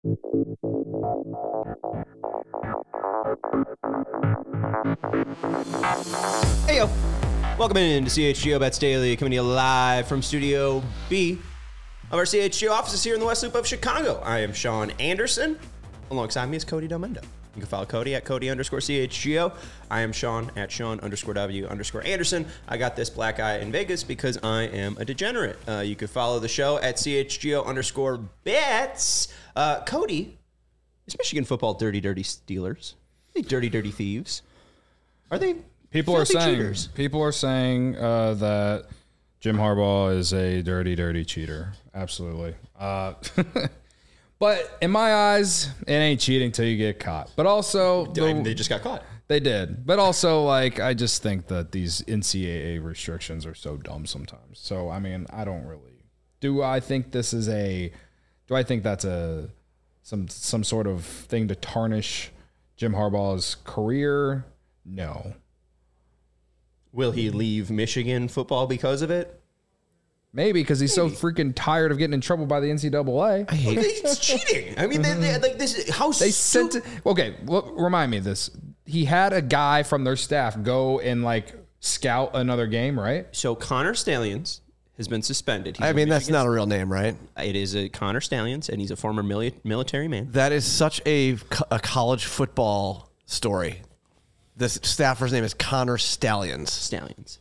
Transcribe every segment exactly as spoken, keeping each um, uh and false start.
Hey, yo. Welcome in to C H G O Bets Daily, coming to you live from Studio B of our C H G O offices here in the West Loop of Chicago. I am Sean Anderson. Alongside me is Cody Delmendo. You can follow Cody at Cody underscore C H G O. I am Sean at Sean underscore W underscore Anderson. I got this black eye in Vegas because I am a degenerate. Uh, you can follow the show at C H G O underscore bets. Uh, Cody, is Michigan football dirty, dirty Steelers? Are they dirty, dirty thieves? Are they people are saying cheaters? People are saying uh, that Jim Harbaugh is a dirty, dirty cheater. Absolutely. Uh, but in my eyes, it ain't cheating till you get caught. But also, the, they just got caught. They did. But also, like, I just think that these N C double A restrictions are so dumb sometimes. So, I mean, I don't really. Do I think this is a. Do I think that's a. Some, some sort of thing to tarnish Jim Harbaugh's career? No. Will he leave Michigan football because of it? Maybe, because he's Maybe. so freaking tired of getting in trouble by the N C double A. I hate it. It's cheating. I mean, they, they, like this. How they stu- sent it. Okay, well, remind me of this. He had a guy from their staff go and like scout another game, right? So Connor Stallions has been suspended. He's I mean, that's not a real name, right? It is a Connor Stallions, and he's a former mili- military man. That is such a, a college football story. The staffer's name is Connor Stallions. Stallions.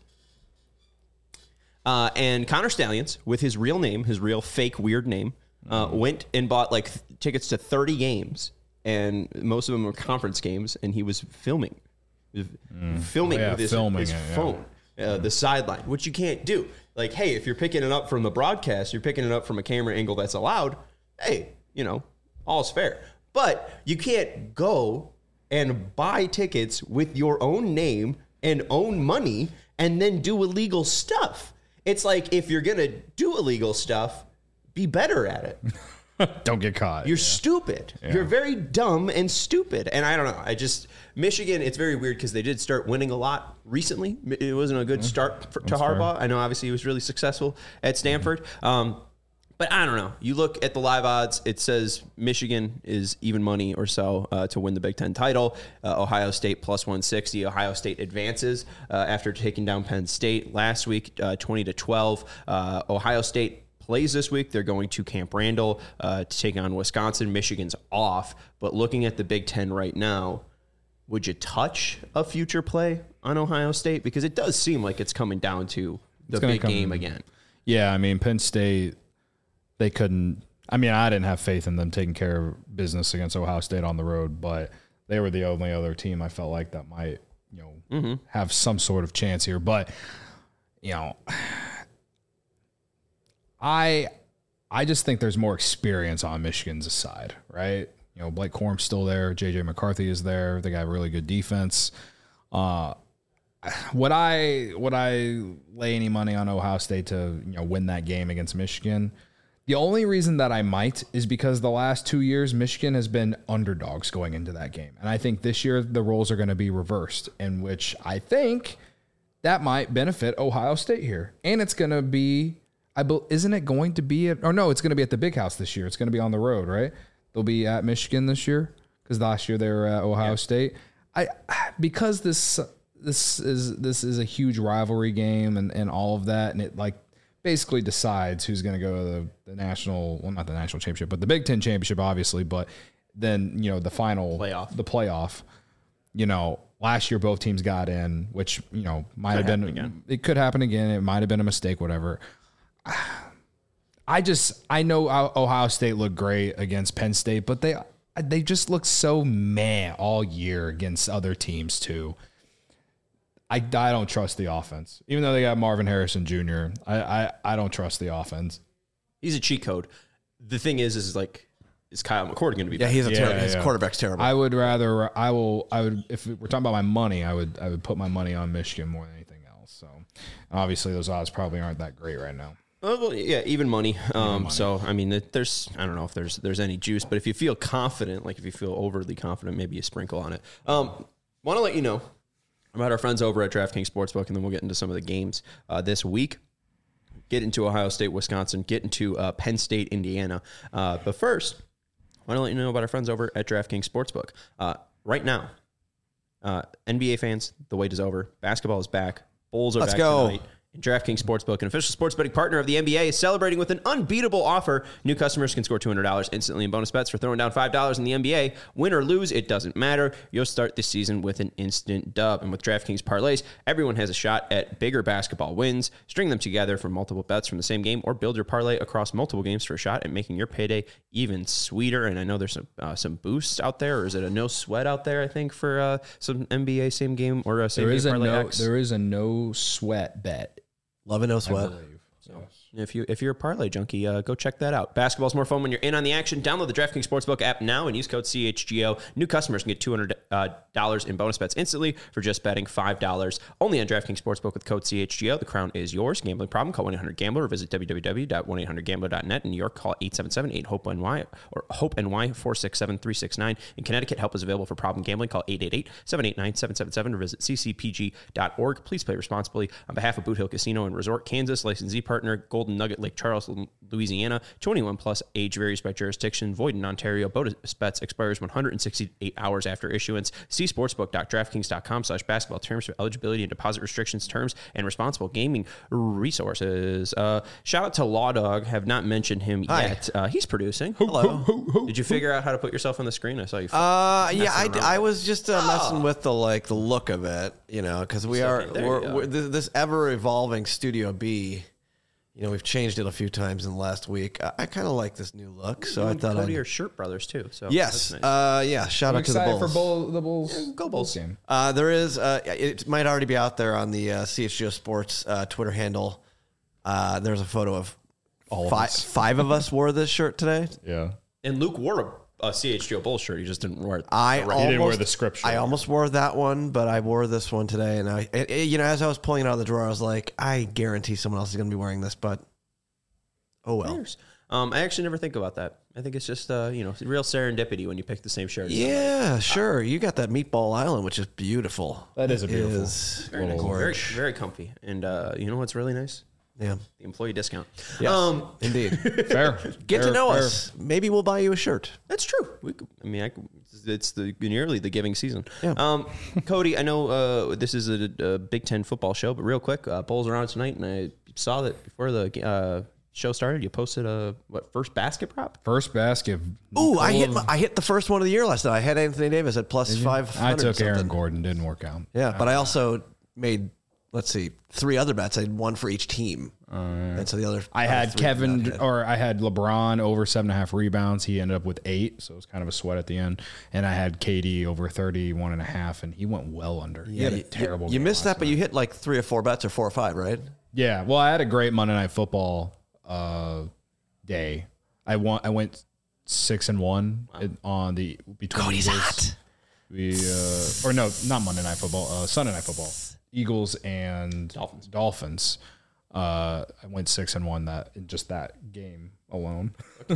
Uh, and Connor Stallions, with his real name, his real fake weird name, uh, mm. went and bought like th- tickets to thirty games, and most of them were conference games, and he was filming. He was mm. Filming oh, yeah, with his, filming his it, phone, yeah. uh, the sideline, which you can't do. Like, hey, if you're picking it up from the broadcast, you're picking it up from a camera angle that's allowed, hey, you know, all's fair. But you can't go and buy tickets with your own name and own money and then do illegal stuff. It's like, if you're going to do illegal stuff, be better at it. Don't get caught. You're yeah. stupid. Yeah. You're very dumb and stupid. And I don't know. I just, Michigan, it's very weird because they did start winning a lot recently. It wasn't a good mm-hmm. start for, to Harbaugh. Fair. I know obviously he was really successful at Stanford. Mm-hmm. Um, But I don't know. You look at the live odds, it says Michigan is even money or so uh, to win the Big Ten title. Uh, Ohio State plus one sixty. Ohio State advances uh, after taking down Penn State last week, uh, twenty to twelve. Uh, Ohio State plays this week. They're going to Camp Randall uh, to take on Wisconsin. Michigan's off. But looking at the Big Ten right now, would you touch a future play on Ohio State? Because it does seem like it's coming down to the big come, game again. Yeah, I mean, Penn State... They couldn't. I mean, I didn't have faith in them taking care of business against Ohio State on the road, but they were the only other team I felt like that might, you know, mm-hmm. have some sort of chance here. But, you know, I I just think there's more experience on Michigan's side, right? You know, Blake Corum's still there. J J McCarthy is there. They got really good defense. Uh, would I would I lay any money on Ohio State to, you know, win that game against Michigan? The only reason that I might is because the last two years, Michigan has been underdogs going into that game. And I think this year the roles are going to be reversed, in which I think that might benefit Ohio State here. And it's going to be, I be, isn't it going to be, at, or no, it's going to be at the Big House this year. It's going to be on the road, right? They'll be at Michigan this year because last year they were at Ohio yeah. State. I because this this is this is a huge rivalry game and, and all of that, and it like basically decides who's going to go to the, the national, well, not the national championship, but the Big Ten championship, obviously. But then, you know, the final playoff, the playoff, you know, last year both teams got in, which, you know, might could have been, again. It could happen again. It might've been a mistake, whatever. I just, I know Ohio State looked great against Penn State, but they, they just look so meh all year against other teams too. I, I don't trust the offense. Even though they got Marvin Harrison Junior, I, I, I don't trust the offense. He's a cheat code. The thing is, is like, is Kyle McCord going to be Yeah, better? he's a yeah, terrible. Yeah. His quarterback's terrible. I would rather, I will, I would, if we're talking about my money, I would, I would put my money on Michigan more than anything else. So obviously those odds probably aren't that great right now. Oh, well, yeah, even money. Um, even money. So, I mean, there's, I don't know if there's, there's any juice, but if you feel confident, like if you feel overly confident, maybe you sprinkle on it. Um, want to let you know about our friends over at DraftKings Sportsbook, and then we'll get into some of the games uh, this week. Get into Ohio State, Wisconsin, get into uh, Penn State, Indiana. Uh, but first, want to let you know about our friends over at DraftKings Sportsbook. Uh, right now, uh, N B A fans, the wait is over. Basketball is back. Bulls are Let's back go. tonight. And DraftKings Sportsbook, an official sports betting partner of the N B A, is celebrating with an unbeatable offer. New customers can score two hundred dollars instantly in bonus bets for throwing down five dollars in the N B A. Win or lose, it doesn't matter. You'll start this season with an instant dub. And with DraftKings parlays, everyone has a shot at bigger basketball wins. String them together for multiple bets from the same game, or build your parlay across multiple games for a shot at making your payday even sweeter. And I know there's some uh, some boosts out there, or is it a no sweat out there? I think for uh, some N B A same game or uh, same There game is a parlay no. X. There is a no sweat bet. Love and no I sweat. believe. So. If you if you're a parlay junkie, uh, go check that out. Basketball's more fun when you're in on the action. Download the DraftKings Sportsbook app now and use code C H G O. New customers can get two hundred dollars in bonus bets instantly for just betting five dollars. Only on DraftKings Sportsbook with code C H G O. The crown is yours. Gambling problem? Call one eight hundred gambler or visit w w w dot one eight hundred gambler dot net. In New York, call eight seven seven eight hope N Y or hope N Y four six seven three six nine. In Connecticut, help is available for problem gambling. Call eight eight eight seven eight nine seven seven seven or visit c c p g dot org. Please play responsibly. On behalf of Boot Hill Casino and Resort, Kansas, licensee partner Golden Nugget Lake Charles, Louisiana. twenty-one plus, age varies by jurisdiction, void in Ontario. Bonus bets expires one hundred sixty-eight hours after issuance. See sportsbook dot draftkings dot com slash basketball terms for eligibility and deposit restrictions, terms, and responsible gaming resources. Uh, shout out to Law Dog. Have not mentioned him Hi. yet. Uh, he's producing. Hello. Did you figure out how to put yourself on the screen? I saw you. Uh, yeah, I, around. I was just uh, messing with the like the look of it, you know, because we So, are okay, there you we're, go. we're, this, this ever evolving Studio B. You know, we've changed it a few times in the last week. I, I kind of like this new look, so You I and thought Cody I'd... are shirt brothers too. So Yes, that's nice. uh, yeah. Shout I'm out to the excited Bulls. for Bull, the Bulls. Yeah, go Bulls. game. Uh, there is, uh, it might already be out there on the uh, C H G O Sports uh, Twitter handle. Uh, there's a photo of All of five, us. five of us wore this shirt today. Yeah. And Luke wore a, a C H G O Bulls shirt. He just didn't wear it. I the right- almost, didn't wear the script shirt. I almost wore that one, but I wore this one today. And I, it, it- you know, as I was pulling it out of the drawer, I was like, I guarantee someone else is going to be wearing this, but oh well. Years. Um, I actually never think about that. I think it's just uh, you know, real serendipity when you pick the same shirt. as somebody. Yeah, sure. You got that Meatball Island, which is beautiful. That is a beautiful. Is very nice, little very, gorge. very comfy. And uh, you know what's really nice? Yeah, The employee discount. yes, Um, indeed. Fair. Get Fair, to know fair. us. Maybe we'll buy you a shirt. that's true. We, could- I mean, I, could- it's the nearly the giving season. Yeah. Um, Cody, I know uh, this is a, a Big Ten football show, but real quick, uh, Bulls are on tonight, and I saw that before the uh, show started, you posted a what first basket prop? First basket. Ooh, I hit Nicole- my, I hit the first one of the year last night. I had Anthony Davis at plus five I hundred. took Aaron Gordon. Didn't work out. Yeah, but I also made let's see three other bets. I had one for each team, and so the other I other had three Kevin did not hit. or I had LeBron over seven and a half rebounds. He ended up with eight, so it was kind of a sweat at the end. And I had K D over thirty-one and a half, and he went well under. He Yeah, had a you, terrible. You game missed last that, but you hit like three or four bets or four or five, right? Yeah, well, I had a great Monday Night Football uh, day. I won. I went six and one in- on the between Cody's Eagles. hot. We uh, or no, not Monday Night Football. Uh, Sunday Night Football. Eagles and Dolphins. Dolphins. Uh, I went six and one that in just that game alone.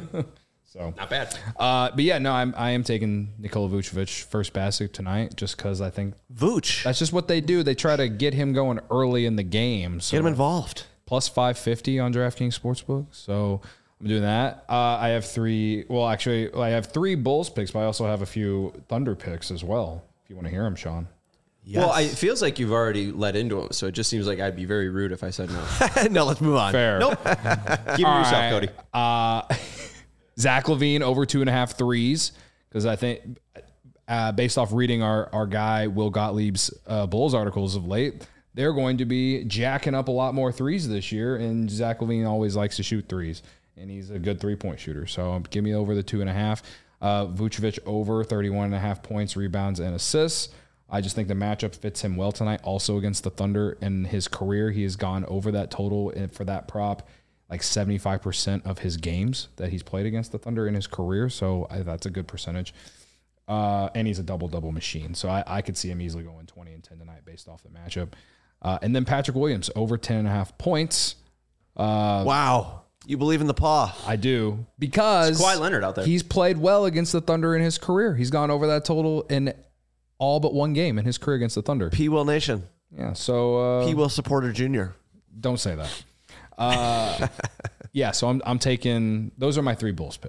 So Not bad. uh, but yeah, no, I'm I am taking Nikola Vucevic first basket tonight just because I think Vooch, that's just what they do. They try to get him going early in the game. So get him involved. plus five fifty on DraftKings Sportsbook. So I'm doing that. Uh, I have three. Well, actually, I have three Bulls picks, but I also have a few Thunder picks as well. If you want to hear them, Sean. Yes. Well, I, it feels like you've already led into it, so it just seems like I'd be very rude if I said no. no, let's move on. Fair. Nope. Give me All yourself, right. Cody. Uh, Zach LaVine over two and a half threes because I think, uh, based off reading our our guy Will Gottlieb's uh, Bulls articles of late, they're going to be jacking up a lot more threes this year, and Zach LaVine always likes to shoot threes, and he's a good three point shooter. So give me over the two and a half. Uh, Vucevic over thirty-one and a half points, rebounds, and assists. I just think the matchup fits him well tonight. Also against the Thunder in his career, he has gone over that total and for that prop like seventy-five percent of his games that he's played against the Thunder in his career. So I, that's a good percentage. Uh, and he's a double-double machine. So I, I could see him easily going twenty and ten tonight based off the matchup. Uh, and then Patrick Williams over ten and a half points. Uh, Wow, you believe in the paw? I do because It's Kawhi Leonard out there. He's played well against the Thunder in his career. He's gone over that total in all but one game in his career against the Thunder. P. Will Nation. Yeah, so uh, P. Will Supporter Junior don't say that. Uh, yeah, so I'm I'm taking those are my three Bulls picks.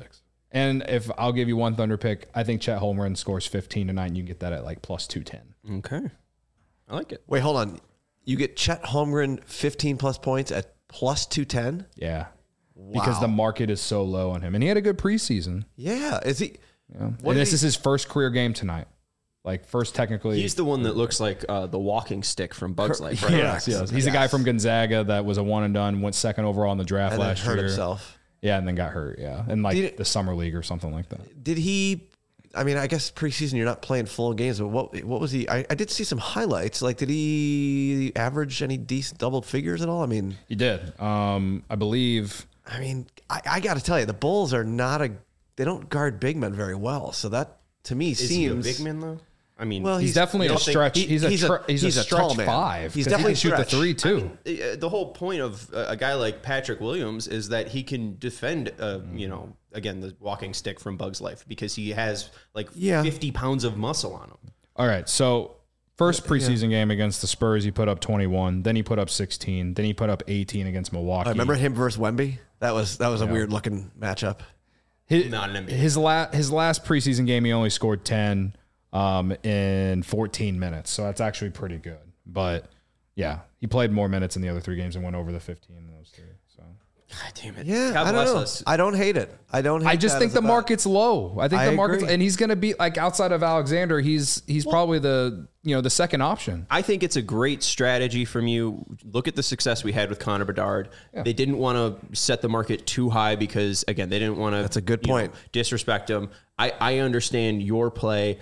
And if I'll give you one Thunder pick, I think Chet Holmgren scores fifteen tonight, and you can get that at like plus two ten. Okay. I like it. Wait, hold on. You get Chet Holmgren fifteen plus points at plus two ten? Yeah. Wow. Because the market is so low on him. And he had a good preseason. Yeah. Is he? Yeah. And this he, is his first career game tonight. Like, first technically. He's the one that looks like uh, the walking stick from Bugs Life, right? Yes, yes. He's yes. a guy from Gonzaga that was a one and done, went second overall in the draft and last then hurt year. himself. Yeah, and then got hurt, yeah. In like it, the summer league or something like that. Did he, I mean, I guess preseason you're not playing full games, but what what was he, I, I did see some highlights. Like, did he average any decent double figures at all? I mean. He did. Um, I believe. I mean, I, I got to tell you, the Bulls are not a, they don't guard big men very well. So that, to me, Is seems. Is he a big man, though? I mean, well, he's, he's definitely a stretch. He, he's, he's a, he's, he's a, a stretch five. He's definitely he can shoot the three too. I mean, the whole point of a guy like Patrick Williams is that he can defend, uh, you know, again the walking stick from Bugs Life because he has like yeah. fifty pounds of muscle on him. All right, so first preseason yeah. game against the Spurs, he put up twenty-one. Then he put up sixteen. Then he put up eighteen against Milwaukee. I remember him versus Wemby. That was that was yeah. a weird looking matchup. His, Not an N B A. His last his last preseason game, he only scored ten. Um, in fourteen minutes. So that's actually pretty good. But yeah, he played more minutes in the other three games and went over the fifteen in those three. So God damn it. Yeah, God I don't bless know. us. I don't hate it. I don't hate I just that think as the a bet. market's low. I think I the market's agree. and he's gonna be like outside of Alexander, he's he's well, probably the you know the second option. I think it's a great strategy from you. Look at the success we had with Connor Bedard. Yeah. They didn't want to set the market too high because again, they didn't want to That's a good point. know, disrespect him. I, I understand your play.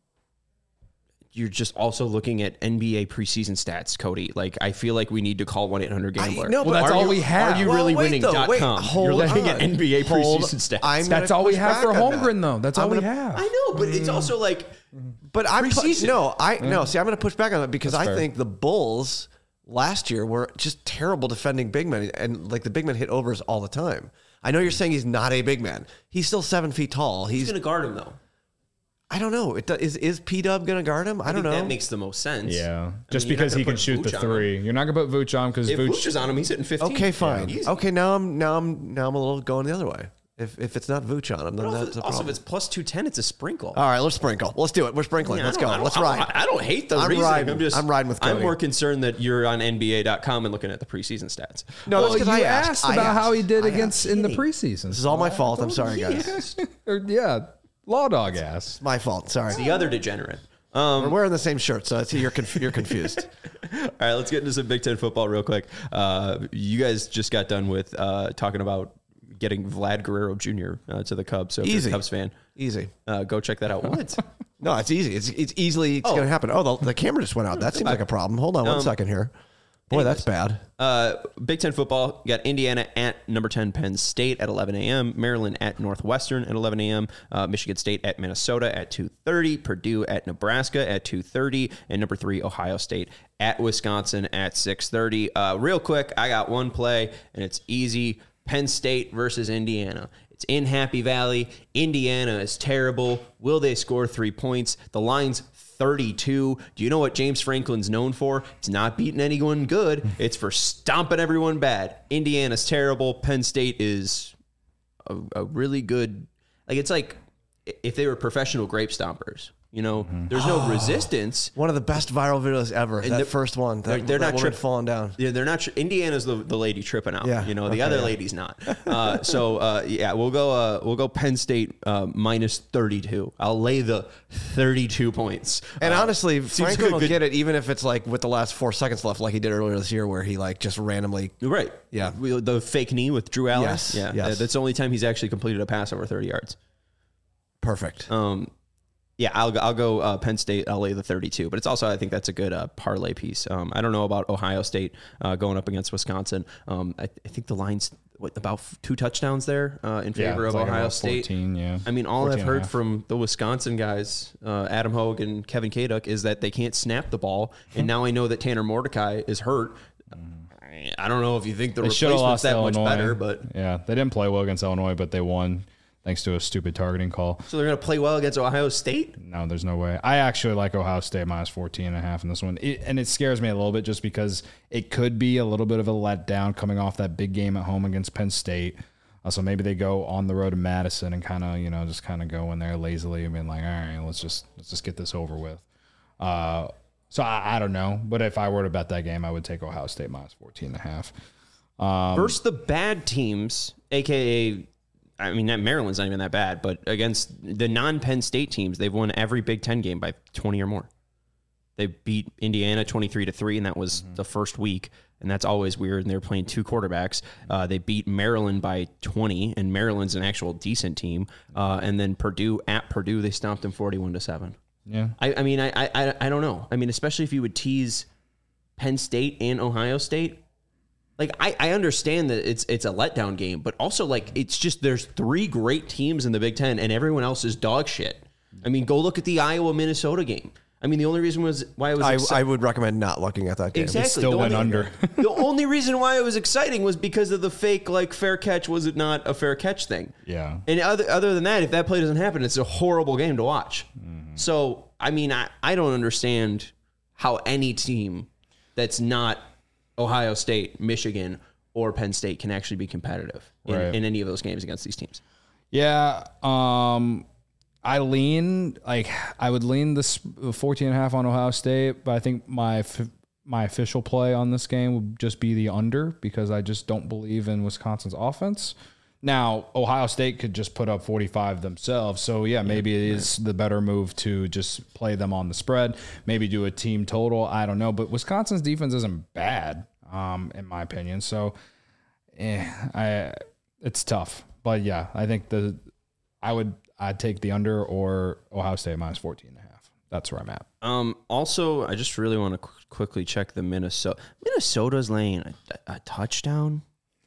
You're just also looking at N B A preseason stats, Cody. Like, I feel like we need to call one eight hundred gambler. No, well, that's are all you, we have. Are you well, really wait, winning though, dot wait, com? hold You're looking on. at N B A Hold, preseason stats. I'm that's all we push have for back on Holmgren, that. though. That's I'm all we gonna, have. I know, but it's also like, but I'm pu- no, I no. See, I'm going to push back on that because That's I fair. think the Bulls last year were just terrible defending big men, and like the big men hit overs all the time. I know you're saying he's not a big man. He's still seven feet tall. He's, he's going to guard him though. I don't know. It, is is P Dub going to guard him? I, I don't think know. That makes the most sense. Yeah, I just mean, because he can put shoot the Vooch three. You're not gonna put Vooch on because If Vooch. Vooch is on him, he's hitting fifteen. Okay, fine. Yeah, okay, now I'm now I'm now I'm a little going the other way. If if it's not Vooch on him, then But that's also, a also, problem. if it's plus two ten, it's a sprinkle. All right, let's sprinkle. Let's do it. We're sprinkling. Yeah, let's I go. don't- I don't- Let's I ride. don't- I don't hate the I'm reasoning. riding. I'm just. I'm riding with I'm Cody. more concerned that you're on N B A dot com and looking at the preseason stats. No, well, that's because you I asked, asked I about how he asked. did I against asked. in the Hey. preseason. This is all my fault. I'm sorry, guys. It's Or, yeah, law dog ass. my fault. Sorry. The other degenerate. Um, We're wearing the same shirt, so it's, you're conf- you're confused. All right, let's get into some Big Ten football real quick. Uh, you guys just got done with uh, talking about getting Vlad Guerrero Junior Uh, to the Cubs. So if you're Easy. a Cubs fan, Easy. uh, go check that out. What? No, it's easy. It's it's easily it's Oh. going to happen. Oh, the, the camera just went out. That seems like a problem. Hold on one Um, second here. Boy, that's bad. Uh, Big Ten football, got Indiana at number ten Penn State at eleven a.m., Maryland at Northwestern at eleven a.m., uh, Michigan State at Minnesota at two thirty, Purdue at Nebraska at two thirty, and number three, Ohio State at Wisconsin at six thirty. Uh, real quick, I got one play, and it's easy. Penn State versus Indiana. It's in Happy Valley. Indiana is terrible. Will they score three points? The line's thirty-two. Do you know what James Franklin's known for? It's not beating anyone good. It's for stomping everyone bad. Indiana's terrible. Penn State is a, a really good, like, it's like if they were professional grape stompers. You know, there's no resistance. One of the best viral videos ever. That the- first one. That, they're- they're that not woman tri- falling down. Yeah, they're not. Tri- Indiana's the, the lady tripping out. Yeah, You know, the okay, other yeah. lady's not. Uh, so uh, yeah, we'll go. Uh, we'll go Penn State uh, minus thirty-two. I'll lay the thirty-two points. And Uh, honestly, seems Franklin good- will good- get it even if it's like with the last four seconds left, like he did earlier this year, where he like just randomly. Right. Yeah. We- The fake knee with Drew Allen. Yes, Yeah. yes. That's the only time he's actually completed a pass over thirty yards. Perfect. Um, yeah, I'll I'll go uh, Penn State. I'll lay the thirty-two, but it's also I think that's a good uh, parlay piece. Um, I don't know about Ohio State uh, going up against Wisconsin. Um, I, I think the line's what, about two touchdowns there uh, in favor it's of like Ohio about State. fourteen, yeah. I mean, all fourteen I've and a heard half. from the Wisconsin guys, uh, Adam Hogue and Kevin Kaduk, is that they can't snap the ball, and now I know that Tanner Mordecai is hurt. I don't know if you think the They should have replacement's lost that Illinois. much better, but yeah, they didn't play well against Illinois, but they won thanks to a stupid targeting call. so they're going to play well against Ohio State. No, there's no way. I actually like Ohio State minus fourteen and a half in this one. It, and it scares me a little bit just because it could be a little bit of a letdown coming off that big game at home against Penn State. Uh, so maybe they go on the road to Madison and kind of, you know, just kind of go in there lazily and being like, all right, let's just let's just get this over with. Uh, so I, I don't know, but if I were to bet that game, I would take Ohio State minus fourteen and a half. Um, Versus the bad teams, aka, I mean, Maryland's not even that bad, but against the non-Penn State teams, they've won every Big Ten game by twenty or more. They beat Indiana twenty-three to three, and that was mm-hmm. the first week, and that's always weird. And they're playing two quarterbacks. Uh, they beat Maryland by twenty, and Maryland's an actual decent team. Uh, and then Purdue at Purdue, they stomped them forty-one to seven. Yeah, I, I mean, I, I, I don't know. I mean, especially if you would tease Penn State and Ohio State. Like, I, I understand that it's it's a letdown game, but also, like, it's just there's three great teams in the Big Ten, and everyone else is dog shit. I mean, go look at the Iowa-Minnesota game. I mean, the only reason was why it was. I, exci- I would recommend not looking at that game. Exactly. It still the went only, under. The only reason why it was exciting was because of the fake, like, fair catch. Was it not a fair catch thing? Yeah. And other other than that, if that play doesn't happen, it's a horrible game to watch. Mm-hmm. So, I mean, I, I don't understand how any team that's not Ohio State, Michigan, or Penn State can actually be competitive in, Right. in any of those games against these teams. Yeah. Um, I lean like I would lean this fourteen and a half on Ohio State, but I think my my official play on this game would just be the under because I just don't believe in Wisconsin's offense. Now, Ohio State could just put up forty-five themselves. So, yeah, maybe it is the better move to just play them on the spread, maybe do a team total. I don't know. But Wisconsin's defense isn't bad, um, in my opinion. So, eh, I it's tough. But, yeah, I think the I would I'd take the under or Ohio State minus fourteen and a half. That's where I'm at. Um, also, I just really want to qu- quickly check the Minnesota. Minnesota's laying a, a touchdown.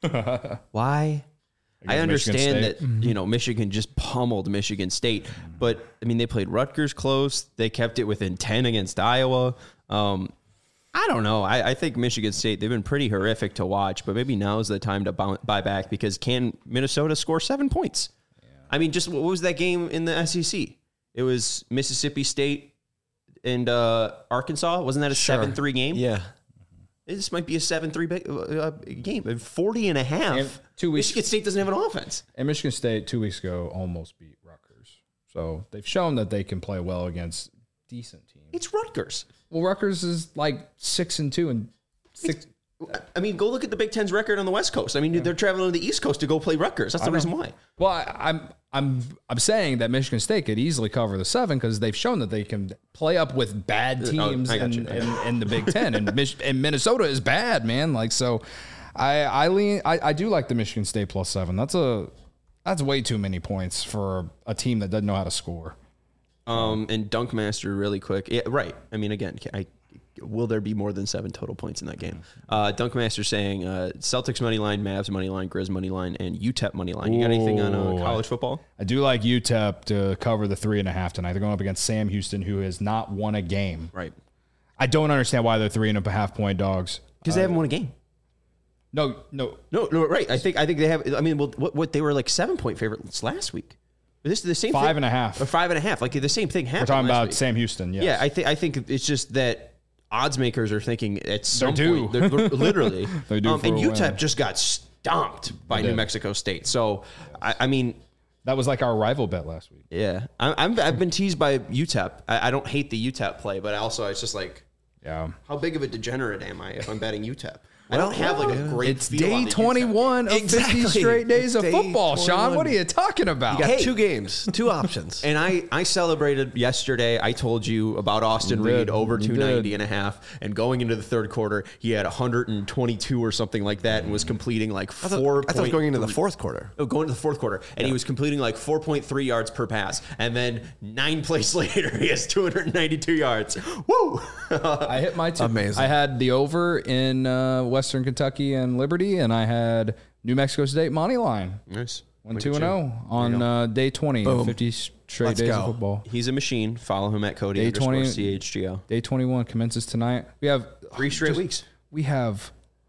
Why? I understand that, mm-hmm. you know, Michigan just pummeled Michigan State, but I mean, they played Rutgers close. They kept it within ten against Iowa. Um, I don't know. I, I think Michigan State, they've been pretty horrific to watch, but maybe now is the time to buy, buy back because can Minnesota score seven points? Yeah. I mean, just what was that game in the S E C? It was Mississippi State and uh, Arkansas. Wasn't that a seven three game? Yeah. This might be a seven three uh, game. forty and a half. And two weeks, Michigan State doesn't have an offense. And Michigan State two weeks ago almost beat Rutgers. So they've shown that they can play well against decent teams. It's Rutgers. Well, Rutgers is like six and two and six. I mean, go look at the Big Ten's record on the West Coast. I mean, yeah. they're traveling to the East Coast to go play Rutgers. That's the reason why. Well, I, I'm I'm I'm saying that Michigan State could easily cover the seven because they've shown that they can play up with bad teams oh, in, in, in the Big Ten, and Mich- and Minnesota is bad, man. Like so, I I lean I, I do like the Michigan State plus seven. That's a that's way too many points for a team that doesn't know how to score. Um, and Dunkmaster really quick. Yeah, right. I mean, again, I. Will there be more than seven total points in that game? Uh, Dunkmaster saying uh, Celtics money line, Mavs money line, Grizz money line, and U T E P money line. You got anything on uh, college football? I do like U T E P to cover the three and a half tonight. They're going up against Sam Houston, who has not won a game. Right. I don't understand why they're three and a half point dogs. Because uh, they haven't won a game. No, no, no, no. Right. I think I think they have. I mean, well, what, what they were like seven point favorites last week. This is the same five thing, and a half or five and a half. Like the same thing happened. We're talking last about week. Sam Houston. Yes. Yeah. I think I think it's just that. Odds makers are thinking at some they're point, they're, literally, they do um, for and a U T E P win. just got stomped by They New did. Mexico State. So, I, I mean, that was like our rival bet last week. Yeah, I, I'm, I've been teased by U T E P. I, I don't hate the U T E P play, but also it's just like, yeah, how big of a degenerate am I if I'm betting U T E P? I don't have like a great. It's feel on day the twenty-one of Exactly. fifty straight days It's of day football, Sean. twenty-one. What are you talking about? You got Hey. two games, two options. And I, I celebrated yesterday. I told you about Austin You Reed did. over You two ninety did. and a half. And going into the third quarter, he had one hundred twenty-two or something like that and was completing like I thought, four. I thought it was going into the fourth quarter. Oh, going to the fourth quarter, and he was completing like four point three yards per pass, and then nine plays later, he has two hundred ninety-two yards. Woo! I hit my two. Amazing. I had the over in uh, Western Kentucky and Liberty, and I had New Mexico State money line. Nice. One Look two at and you. zero on uh, day twenty, Boom. fifty straight Let's days go. of football. He's a machine. Follow him at Cody Day underscore twenty C H G O. Day twenty-one commences tonight. We have Three straight just- weeks. We have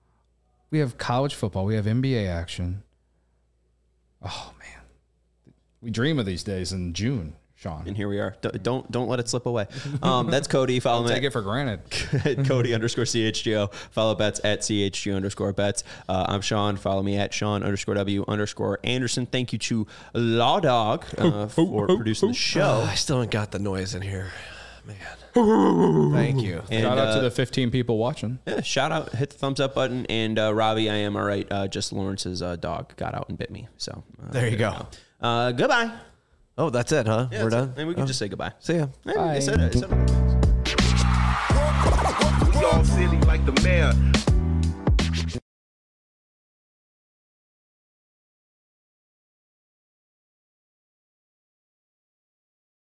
we have college football. We have N B A action. Oh man, we dream of these days in June. Sean. And here we are. D- don't don't let it slip away. Um, that's Cody. Follow Don't him take at it for granted. Cody underscore C H G O. Follow Betts at C H G O underscore Betts. Uh, I'm Sean. Follow me at Sean underscore W underscore Anderson. Thank you to Law Dog uh, for producing the show. Oh, I still ain't got the noise in here. Man. Thank you. And, Shout out uh, to the fifteen people watching. Yeah, shout out, hit the thumbs up button, and uh, Robbie, I am all right. Uh, just Lawrence's uh, dog got out and bit me, so uh, There you go. go. Uh, goodbye. Oh, that's it, huh? Yeah, We're that's done? it. And we can Oh. just say goodbye. See ya. Yeah, Bye. I said it. I said it. We all silly like the mayor.